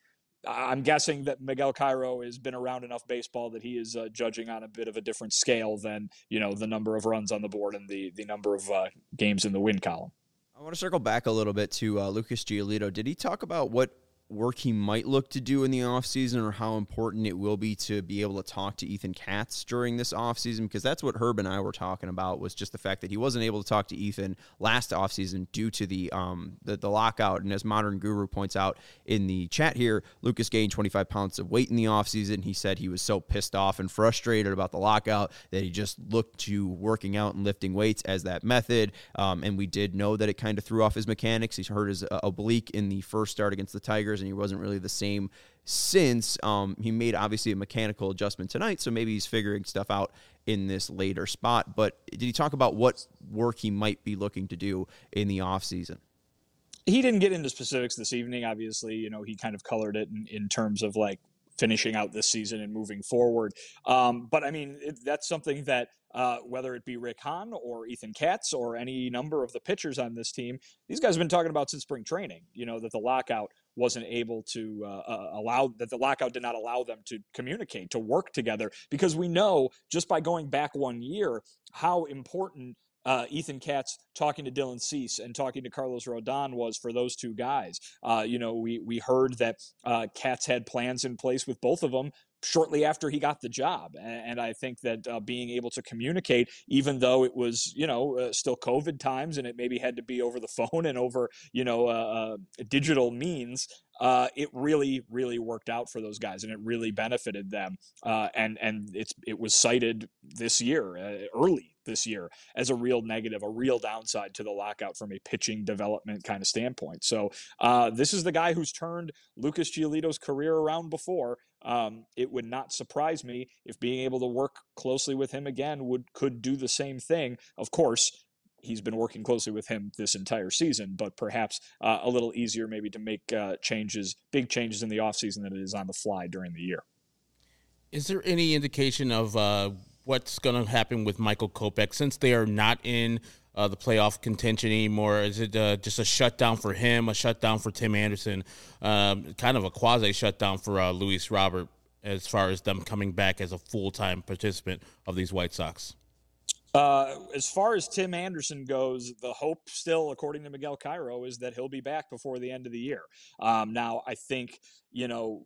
I'm guessing that Miguel Cairo has been around enough baseball that he is uh, judging on a bit of a different scale than you know the number of runs on the board and the the number of uh, games in the win column. I want to circle back a little bit to uh, Lucas Giolito. Did he talk about what work he might look to do in the offseason or how important it will be to be able to talk to Ethan Katz during this offseason? Because that's what Herb and I were talking about, was just the fact that he wasn't able to talk to Ethan last offseason due to the um the, the lockout. And as Modern Guru points out in the chat here, Lucas gained twenty-five pounds of weight in the offseason. He said he was so pissed off and frustrated about the lockout that he just looked to working out and lifting weights as that method. Um, and we did know that it kind of threw off his mechanics. He's hurt his uh, oblique in the first start against the Tigers, and he wasn't really the same since. Um, he made obviously a mechanical adjustment tonight, so maybe he's figuring stuff out in this later spot. But did he talk about what work he might be looking to do in the offseason? He didn't get into specifics this evening. Obviously, you know, he kind of colored it in, in terms of like finishing out this season and moving forward. Um, but I mean, it, that's something that uh, whether it be Rick Hahn or Ethan Katz or any number of the pitchers on this team, these guys have been talking about since spring training, you know, that the lockout wasn't able to uh, uh, allow, that the lockout did not allow them to communicate, to work together, because we know just by going back one year, how important Uh, Ethan Katz talking to Dylan Cease and talking to Carlos Rodon was for those two guys. Uh, you know, we we heard that uh, Katz had plans in place with both of them shortly after he got the job. And, and I think that uh, being able to communicate, even though it was, you know, uh, still COVID times and it maybe had to be over the phone and over, you know, uh, uh, digital means, uh, it really, really worked out for those guys and it really benefited them. Uh, and and it's it was cited this year, uh, early this year, as a real negative, a real downside to the lockout from a pitching development kind of standpoint. So uh, this is the guy who's turned Lucas Giolito's career around before. Um, it would not surprise me if being able to work closely with him again would could do the same thing. Of course, he's been working closely with him this entire season, but perhaps uh, a little easier maybe to make uh, changes, big changes in the offseason than it is on the fly during the year. Is there any indication of uh, what's going to happen with Michael Kopech since they are not in uh, the playoff contention anymore? Is it uh, just a shutdown for him, a shutdown for Tim Anderson, um, kind of a quasi shutdown for uh, Luis Robert as far as them coming back as a full-time participant of these White Sox? Uh, as far as Tim Anderson goes, the hope still, according to Miguel Cairo, is that he'll be back before the end of the year. Um, now, I think, you know,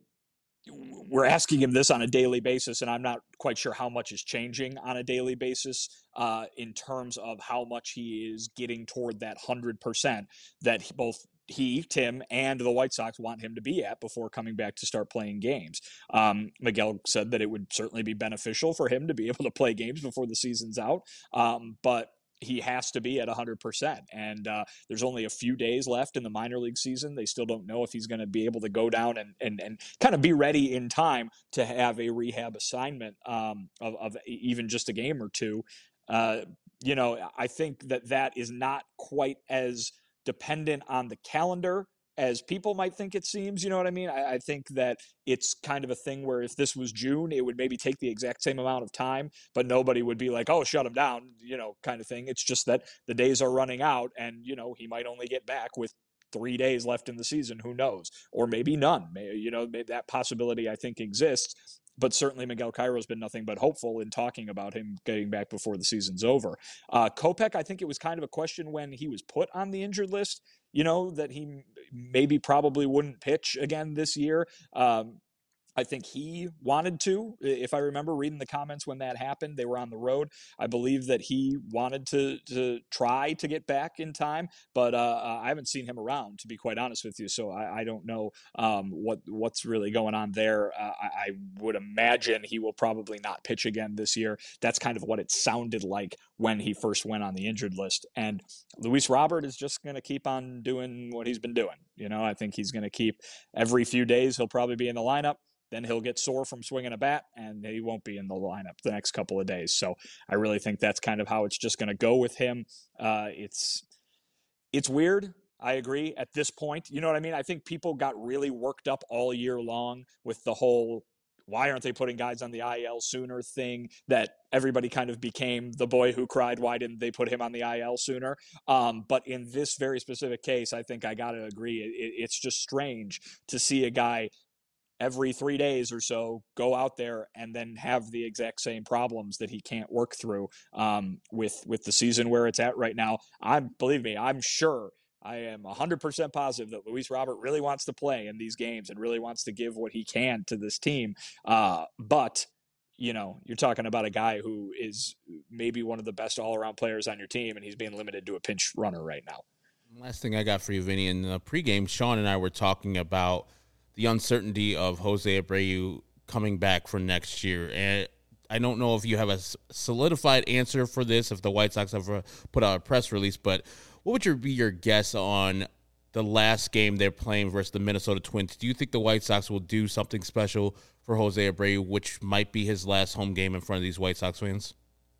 we're asking him this on a daily basis, and I'm not quite sure how much is changing on a daily basis uh, in terms of how much he is getting toward that one hundred percent that both he, Tim, and the White Sox want him to be at before coming back to start playing games. Um, Miguel said that it would certainly be beneficial for him to be able to play games before the season's out, um, but he has to be at one hundred percent. And uh, there's only a few days left in the minor league season. They still don't know if he's going to be able to go down and, and, and kind of be ready in time to have a rehab assignment um, of, of even just a game or two. Uh, you know, I think that that is not quite as dependent on the calendar as people might think it seems. You know what I mean? I, I think that it's kind of a thing where if this was June, it would maybe take the exact same amount of time, but nobody would be like, oh, shut him down, you know, kind of thing. It's just that the days are running out and, you know, he might only get back with three days left in the season. Who knows? Or maybe none. Maybe, you know, maybe that possibility I think exists. But certainly Miguel Cairo's been nothing but hopeful in talking about him getting back before the season's over. Uh, Kopech, I think it was kind of a question when he was put on the injured list, you know, that he maybe probably wouldn't pitch again this year. Um, I think he wanted to, if I remember reading the comments when that happened, they were on the road. I believe that he wanted to to try to get back in time, but uh, I haven't seen him around, to be quite honest with you. So I, I don't know um, what what's really going on there. Uh, I, I would imagine he will probably not pitch again this year. That's kind of what it sounded like when he first went on the injured list. And Luis Robert is just going to keep on doing what he's been doing. You know, I think he's going to keep every few days, he'll probably be in the lineup. Then he'll get sore from swinging a bat, and he won't be in the lineup the next couple of days. So I really think that's kind of how it's just going to go with him. Uh, it's it's weird. I agree at this point. You know what I mean? I think people got really worked up all year long with the whole why aren't they putting guys on the I L sooner thing that everybody kind of became the boy who cried, why didn't they put him on the I L sooner? Um, but in this very specific case, I think I got to agree. It, it's just strange to see a guy every three days or so go out there and then have the exact same problems that he can't work through um, with, with the season where it's at right now. I'm, believe me, I'm sure I am one hundred percent positive that Luis Robert really wants to play in these games and really wants to give what he can to this team. Uh, but, you know, you're talking about a guy who is maybe one of the best all-around players on your team, and he's being limited to a pinch runner right now. Last thing I got for you, Vinny, in the pregame, Sean and I were talking about the uncertainty of Jose Abreu coming back for next year. And I don't know if you have a solidified answer for this, if the White Sox ever put out a press release, but what would your, be your guess on the last game they're playing versus the Minnesota Twins? Do you think the White Sox will do something special for Jose Abreu, which might be his last home game in front of these White Sox fans?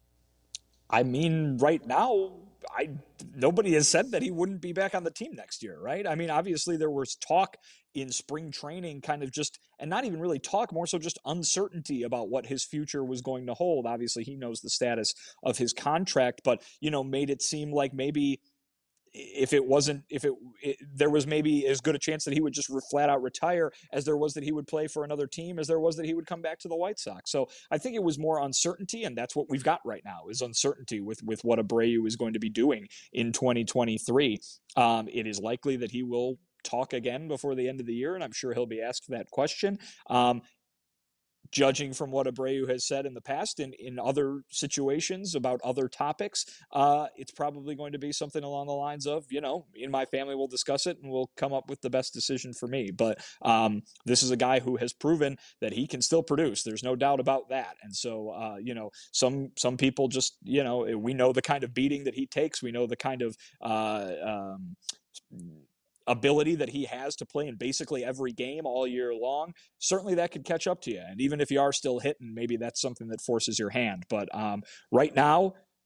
I mean, right now, I nobody has said that he wouldn't be back on the team next year, right? I mean, obviously there was talk in spring training, kind of just, and not even really talk, more so just uncertainty about what his future was going to hold. Obviously, he knows the status of his contract, but, you know, made it seem like maybe if it wasn't, if it, it there was maybe as good a chance that he would just flat out retire as there was that he would play for another team, as there was that he would come back to the White Sox. So I think it was more uncertainty, and that's what we've got right now is uncertainty with, with what Abreu is going to be doing in twenty twenty-three. Um, it is likely that he will talk again before the end of the year, and I'm sure he'll be asked that question. Um, Judging from what Abreu has said in the past in, in other situations about other topics, uh, it's probably going to be something along the lines of, you know, me and my family will discuss it and we'll come up with the best decision for me. But um, this is a guy who has proven that he can still produce. There's no doubt about that. And so, uh, you know, some some people just, you know, we know the kind of beating that he takes. We know the kind of uh, um, ability that he has to play in basically every game all year long. Certainly that could catch up to you. And even if you are still hitting, maybe that's something that forces your hand. But um, right now,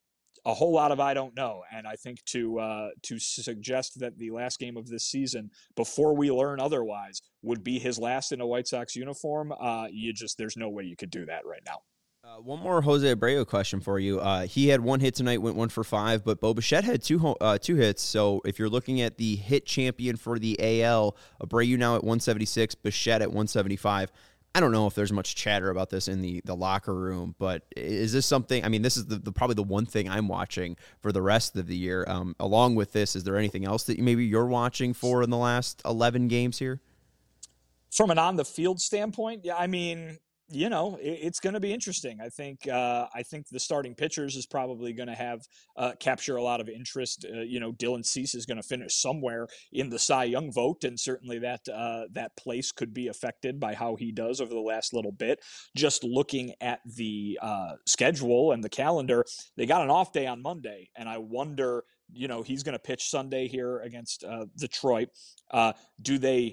a whole lot of I don't know. And I think to uh, to suggest that the last game of this season, before we learn otherwise, would be his last in a White Sox uniform, uh, you just there's no way you could do that right now. Uh, one more Jose Abreu question for you. Uh, he had one hit tonight, went one for five, but Bo Bichette had two ho- uh, two hits. So if you're looking at the hit champion for the A L, Abreu now at one seventy-six, Bichette at one seventy-five. I don't know if there's much chatter about this in the, the locker room, but is this something, I mean, this is the, the probably the one thing I'm watching for the rest of the year. Um, along with this, is there anything else that maybe you're watching for in the last eleven games here? From an on-the-field standpoint, yeah, I mean, you know, it, it's going to be interesting. I think uh, I think the starting pitchers is probably going to have uh, capture a lot of interest. Uh, you know, Dylan Cease is going to finish somewhere in the Cy Young vote, and certainly that uh, that place could be affected by how he does over the last little bit. Just looking at the uh, schedule and the calendar, they got an off day on Monday, and I wonder, you know, he's going to pitch Sunday here against uh, Detroit. Uh, do they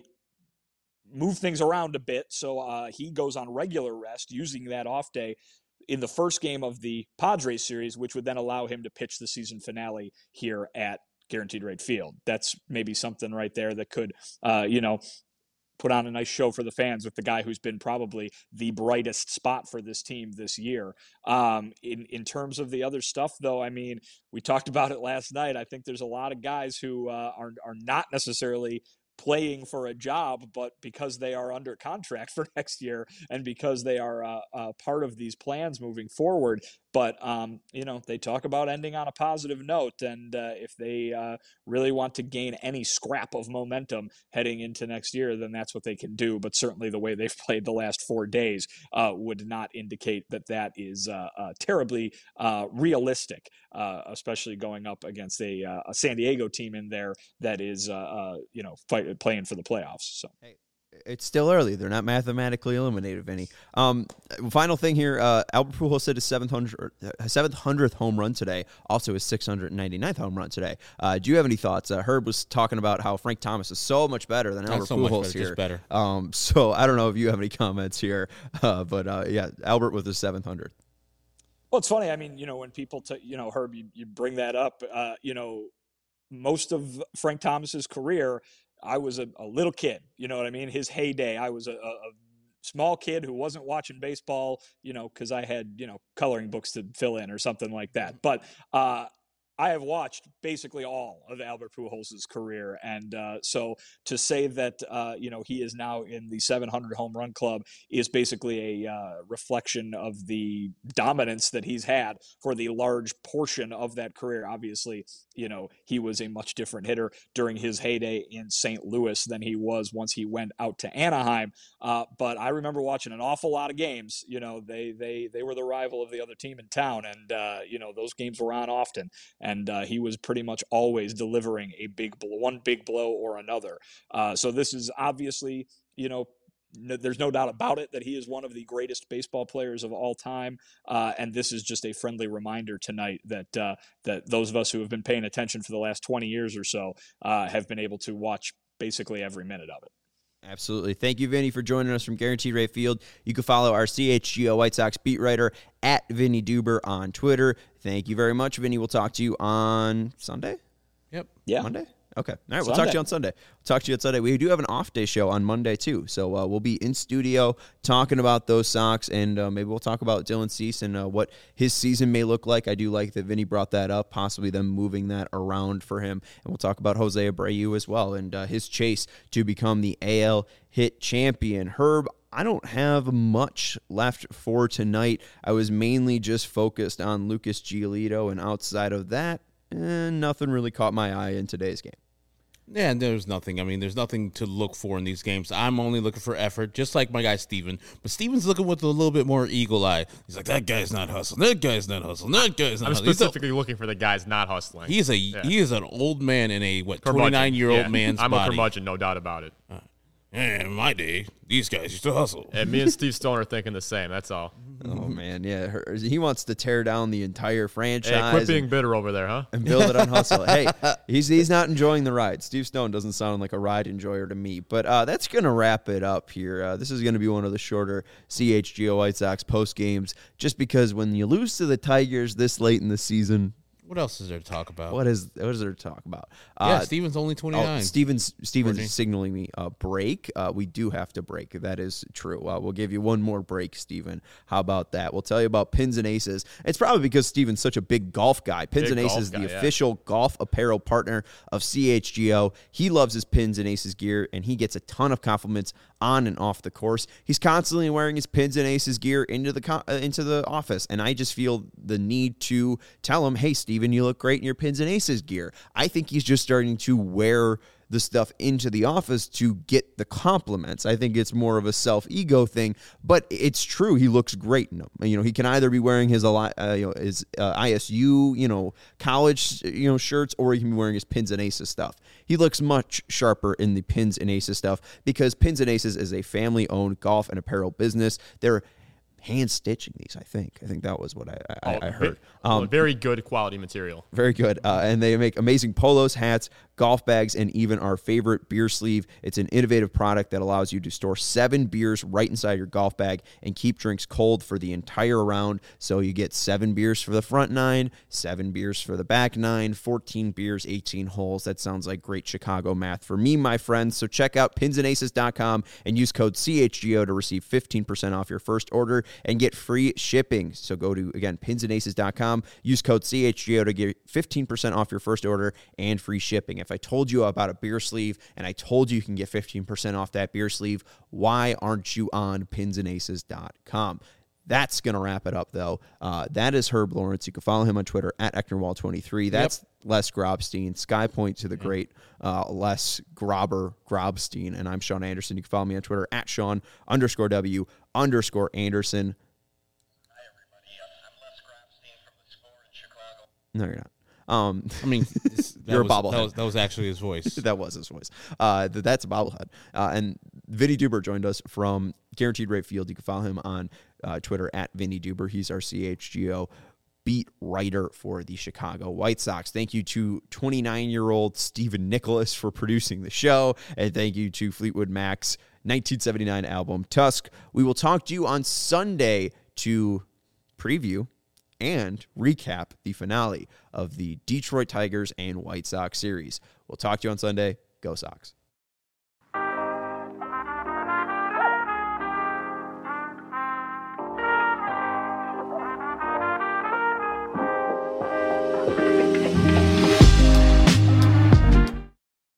move things around a bit so uh, he goes on regular rest using that off day in the first game of the Padres series, which would then allow him to pitch the season finale here at Guaranteed Rate Field? That's maybe something right there that could, uh, you know, put on a nice show for the fans with the guy who's been probably the brightest spot for this team this year. Um, in, in terms of the other stuff, though, I mean, we talked about it last night. I think there's a lot of guys who uh, are, are not necessarily playing for a job, but because they are under contract for next year and because they are uh, uh, part of these plans moving forward. But, um, you know, they talk about ending on a positive note. And uh, if they uh, really want to gain any scrap of momentum heading into next year, then that's what they can do. But certainly the way they've played the last four days uh, would not indicate that that is uh, uh, terribly uh, realistic, uh, especially going up against a, uh, a San Diego team in there that is, uh, uh, you know, fight, playing for the playoffs. So. Hey. It's still early. They're not mathematically eliminated, Vinny. Um, final thing here, uh, Albert Pujols hit his seventh hundredth home run today, also his six hundred ninety-ninth home run today. Uh, do you have any thoughts? Uh, Herb was talking about how Frank Thomas is so much better than Not Albert so Pujols much better, here. just better. Um, so I don't know if you have any comments here, uh, but uh, yeah, Albert with his seventh hundredth. Well, it's funny. I mean, you know, when people, t- you know, Herb, you, you bring that up, uh, you know, most of Frank Thomas's career, I was a, a little kid, you know what I mean? His heyday, I was a, a, a small kid who wasn't watching baseball, you know, because I had, you know, coloring books to fill in or something like that. But uh, I have watched basically all of Albert Pujols' career. And uh, so to say that, uh, you know, he is now in the seven hundred home run club is basically a uh, reflection of the dominance that he's had for the large portion of that career. Obviously, you know, he was a much different hitter during his heyday in Saint Louis than he was once he went out to Anaheim. Uh, but I remember watching an awful lot of games. You know, they they they were the rival of the other team in town. And, uh, you know, those games were on often. And uh, he was pretty much always delivering a big blow, one big blow or another. Uh, so this is obviously, you know, no, there's no doubt about it that he is one of the greatest baseball players of all time. Uh, and this is just a friendly reminder tonight that uh, that those of us who have been paying attention for the last twenty years or so uh, have been able to watch basically every minute of it. Absolutely. Thank you, Vinny, for joining us from Guaranteed Rate Field. You can follow our C H G O White Sox beat writer at Vinny Duber on Twitter. Thank you very much, Vinny. We'll talk to you on Sunday? Yep. Yeah. Monday? Okay. All right. We'll Sunday. talk to you on Sunday. We'll talk to you on Sunday. We do have an off day show on Monday, too. So uh, we'll be in studio talking about those Sox, and uh, maybe we'll talk about Dylan Cease and uh, what his season may look like. I do like that Vinny brought that up, possibly them moving that around for him. And we'll talk about Jose Abreu as well and uh, his chase to become the A L hit champion. Herb, I don't have much left for tonight. I was mainly just focused on Lucas Giolito, and outside of that, eh, nothing really caught my eye in today's game. Yeah, and there's nothing. I mean, there's nothing to look for in these games. I'm only looking for effort, just like my guy Steven. But Steven's looking with a little bit more eagle eye. He's like, that guy's not hustling. That guy's not hustling. That guy's not I'm hustling. specifically a, looking for the guys not hustling. He's a yeah. he is an old man in a what twenty-nine-year-old yeah. man's I'm body. I'm a curmudgeon, no doubt about it. Uh, in my day, these guys used to hustle. And me and Steve Stone are thinking the same. That's all. Oh, man, yeah. Her, he wants to tear down the entire franchise. Hey, quit being and, bitter over there, huh? and build it on hustle. Hey, he's he's not enjoying the ride. Steve Stone doesn't sound like a ride enjoyer to me. But uh, that's going to wrap it up here. Uh, this is going to be one of the shorter C H G O White Sox post games, just because when you lose to the Tigers this late in the season, What else is there to talk about? What is what is there to talk about? Yeah, Uh, Steven's only twenty-nine. Oh, Steven's Steven's Courtney. signaling me a break. Uh, we do have to break. That is true. Uh, we'll give you one more break, Steven. How about that? We'll tell you about Pins and Aces. It's probably because Steven's such a big golf guy. Pins Big and golf Aces, guy, the yeah. official golf apparel partner of C H G O. He loves his Pins and Aces gear, and he gets a ton of compliments on and off the course. He's constantly wearing his Pins and Aces gear into the co- uh, into the office, and I just feel the need to tell him, "Hey, Steven, you look great in your Pins and Aces gear." I think he's just starting to wear the stuff into the office to get the compliments. I think it's more of a self-ego thing, but it's true. He looks great in them. You know, he can either be wearing his uh, you know his uh, I S U, you know, college, you know, shirts, or he can be wearing his Pins and Aces stuff. He looks much sharper in the Pins and Aces stuff because Pins and Aces is a family-owned golf and apparel business. They're hand stitching these, I think. I think that was what I, I, Oh, I heard. Um, very good quality material. Very good. Uh, and they make amazing polos, hats, golf bags, and even our favorite beer sleeve. It's an innovative product that allows you to store seven beers right inside your golf bag and keep drinks cold for the entire round. So you get seven beers for the front nine, seven beers for the back nine, fourteen beers, eighteen holes. That sounds like great Chicago math for me, my friends. So check out pins and aces dot com and use code C H G O to receive fifteen percent off your first order and get free shipping. So go to, again, pins and aces dot com, use code C H G O to get fifteen percent off your first order and free shipping. If I told you about a beer sleeve and I told you you can get fifteen percent off that beer sleeve, why aren't you on pins and aces dot com? That's going to wrap it up, though. Uh, that is Herb Lawrence. You can follow him on Twitter at Ecknerwall twenty-three. That's yep. Les Grobstein. Skypoint to the mm-hmm. great uh, Les Grobber Grobstein. And I'm Sean Anderson. You can follow me on Twitter at Sean underscore W underscore Anderson. Hi, everybody. I'm Les Grobstein from the Score in Chicago. No, you're not. Um, I mean, this, that you're was, a bobblehead. That was, that was actually his voice. That was his voice. Uh, th- that's a bobblehead. Uh, and Vinny Duber joined us from Guaranteed Rate Field. You can follow him on uh, Twitter at Vinny Duber. He's our C H G O beat writer for the Chicago White Sox. Thank you to twenty-nine-year-old Stephen Nicholas for producing the show. And thank you to Fleetwood Mac's nineteen seventy-nine album, Tusk. We will talk to you on Sunday to preview and recap the finale of the Detroit Tigers and White Sox series. We'll talk to you on Sunday. Go Sox.